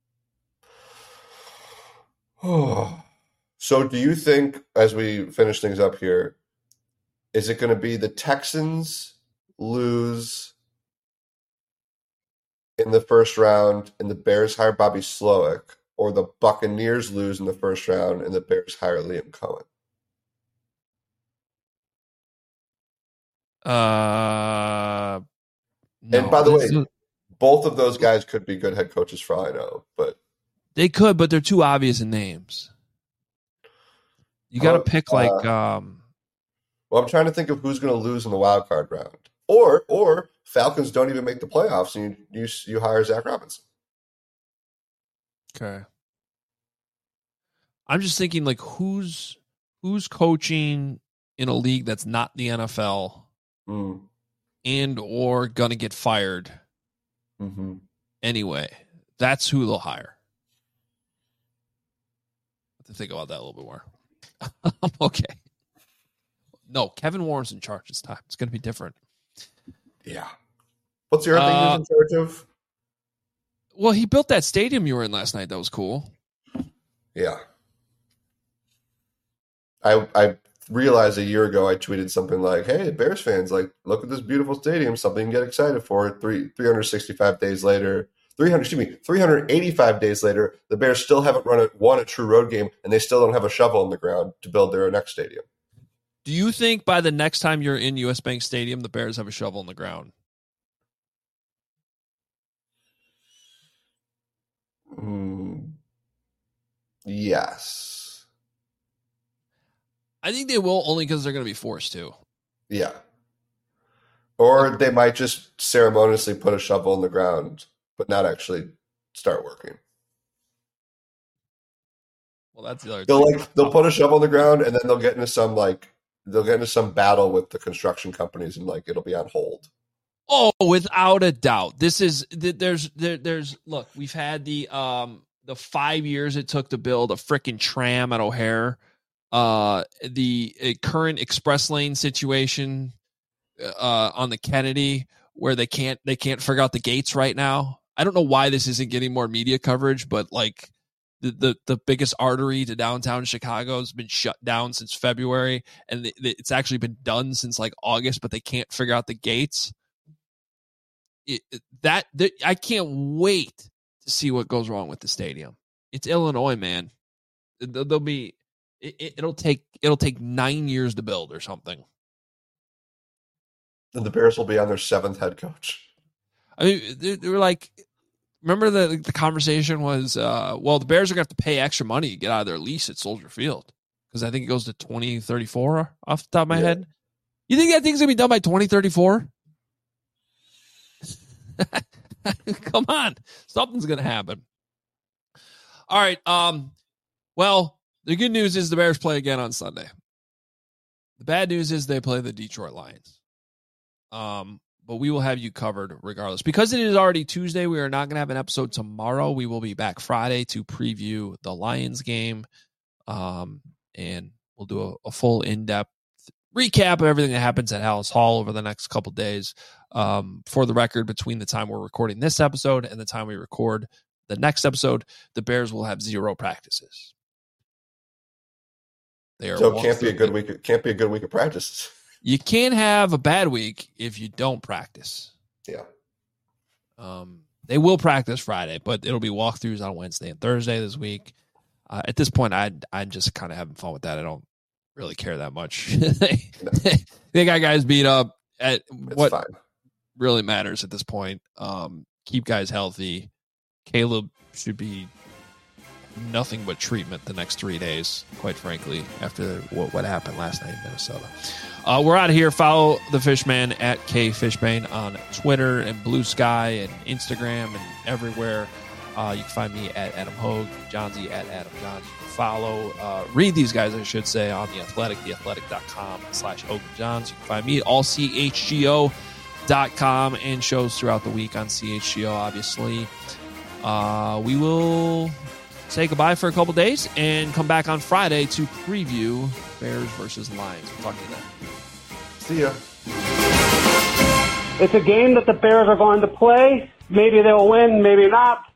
So do you think, as we finish things up here, is it going to be the Texans lose in the first round and the Bears hire Bobby Slowick, or the Buccaneers lose in the first round and the Bears hire Liam Cohen? No, and by the way, both of those guys could be good head coaches for all I know, but they could, but they're too obvious in names. You got to pick Well, I'm trying to think of who's going to lose in the wild card round. Or Falcons don't even make the playoffs and you hire Zach Robinson. Okay. I'm just thinking, like, who's coaching in a league that's not the NFL and or going to get fired anyway. That's who they'll hire. I have to think about that a little bit more. Okay. No, Kevin Warren's in charge this time. It's going to be different. Yeah. What's the other thing he's in charge of? Well, he built that stadium you were in last night. That was cool. Yeah. I realized a year ago I tweeted something like, hey, Bears fans, like, look at this beautiful stadium, something to get excited for. 365 days later, 385 days later, the Bears still haven't won a true road game, and they still don't have a shovel in the ground to build their next stadium. Do you think by the next time you're in US Bank Stadium, the Bears have a shovel in the ground? Yes. I think they will, only because they're going to be forced to. Yeah. Or they might just ceremoniously put a shovel in the ground, but not actually start working. Well, that's the other thing. They'll put a shovel in the ground, and then they'll get into some battle with the construction companies, and like it'll be on hold. Oh, without a doubt. This is there's look, we've had the 5 years it took to build a freaking tram at O'Hare. The current express lane situation on the Kennedy, where they can't figure out the gates right now. I don't know why this isn't getting more media coverage, but like the biggest artery to downtown Chicago has been shut down since February, and it's actually been done since like August, but they can't figure out the gates. I can't wait to see what goes wrong with the stadium. It's Illinois, man. It'll take 9 years to build or something. And the Bears will be on their 7th head coach. I mean, they were like, remember the conversation was, well, the Bears are going to have to pay extra money to get out of their lease at Soldier Field, because I think it goes to 2034 off the top of my head. You think that thing's going to be done by 2034? Come on. Something's going to happen. All right. Well, the good news is the Bears play again on Sunday. The bad news is they play the Detroit Lions. But we will have you covered regardless. Because it is already Tuesday, we are not going to have an episode tomorrow. We will be back Friday to preview the Lions game. And we'll do a full in-depth recap of everything that happens at Hallis Hall over the next couple days. For the record, between the time we're recording this episode and the time we record the next episode, the Bears will have 0 practices. So it can't be a good week. Can't be a good week of practices. You can't have a bad week if you don't practice. Yeah. They will practice Friday, but it'll be walkthroughs on Wednesday and Thursday this week. At this point, I'm just kind of having fun with that. I don't really care that much. They got guys beat up. It's what fine. Really matters at this point. Keep guys healthy. Caleb should be nothing but treatment the next 3 days, quite frankly, after what happened last night in Minnesota. We're out of here. Follow the Fishman at KFishbane on Twitter and Blue Sky and Instagram and everywhere. You can find me at Adam Hogue, Johnsy at Adam Johns. You can follow, read these guys, I should say, on The Athletic, theathletic.com/Hogue and Johns. You can find me at allchgo.com and shows throughout the week on CHGO, obviously. We will say goodbye for a couple days and come back on Friday to preview Bears versus Lions. We'll talk to you then. See ya. It's a game that the Bears are going to play. Maybe they'll win, maybe not.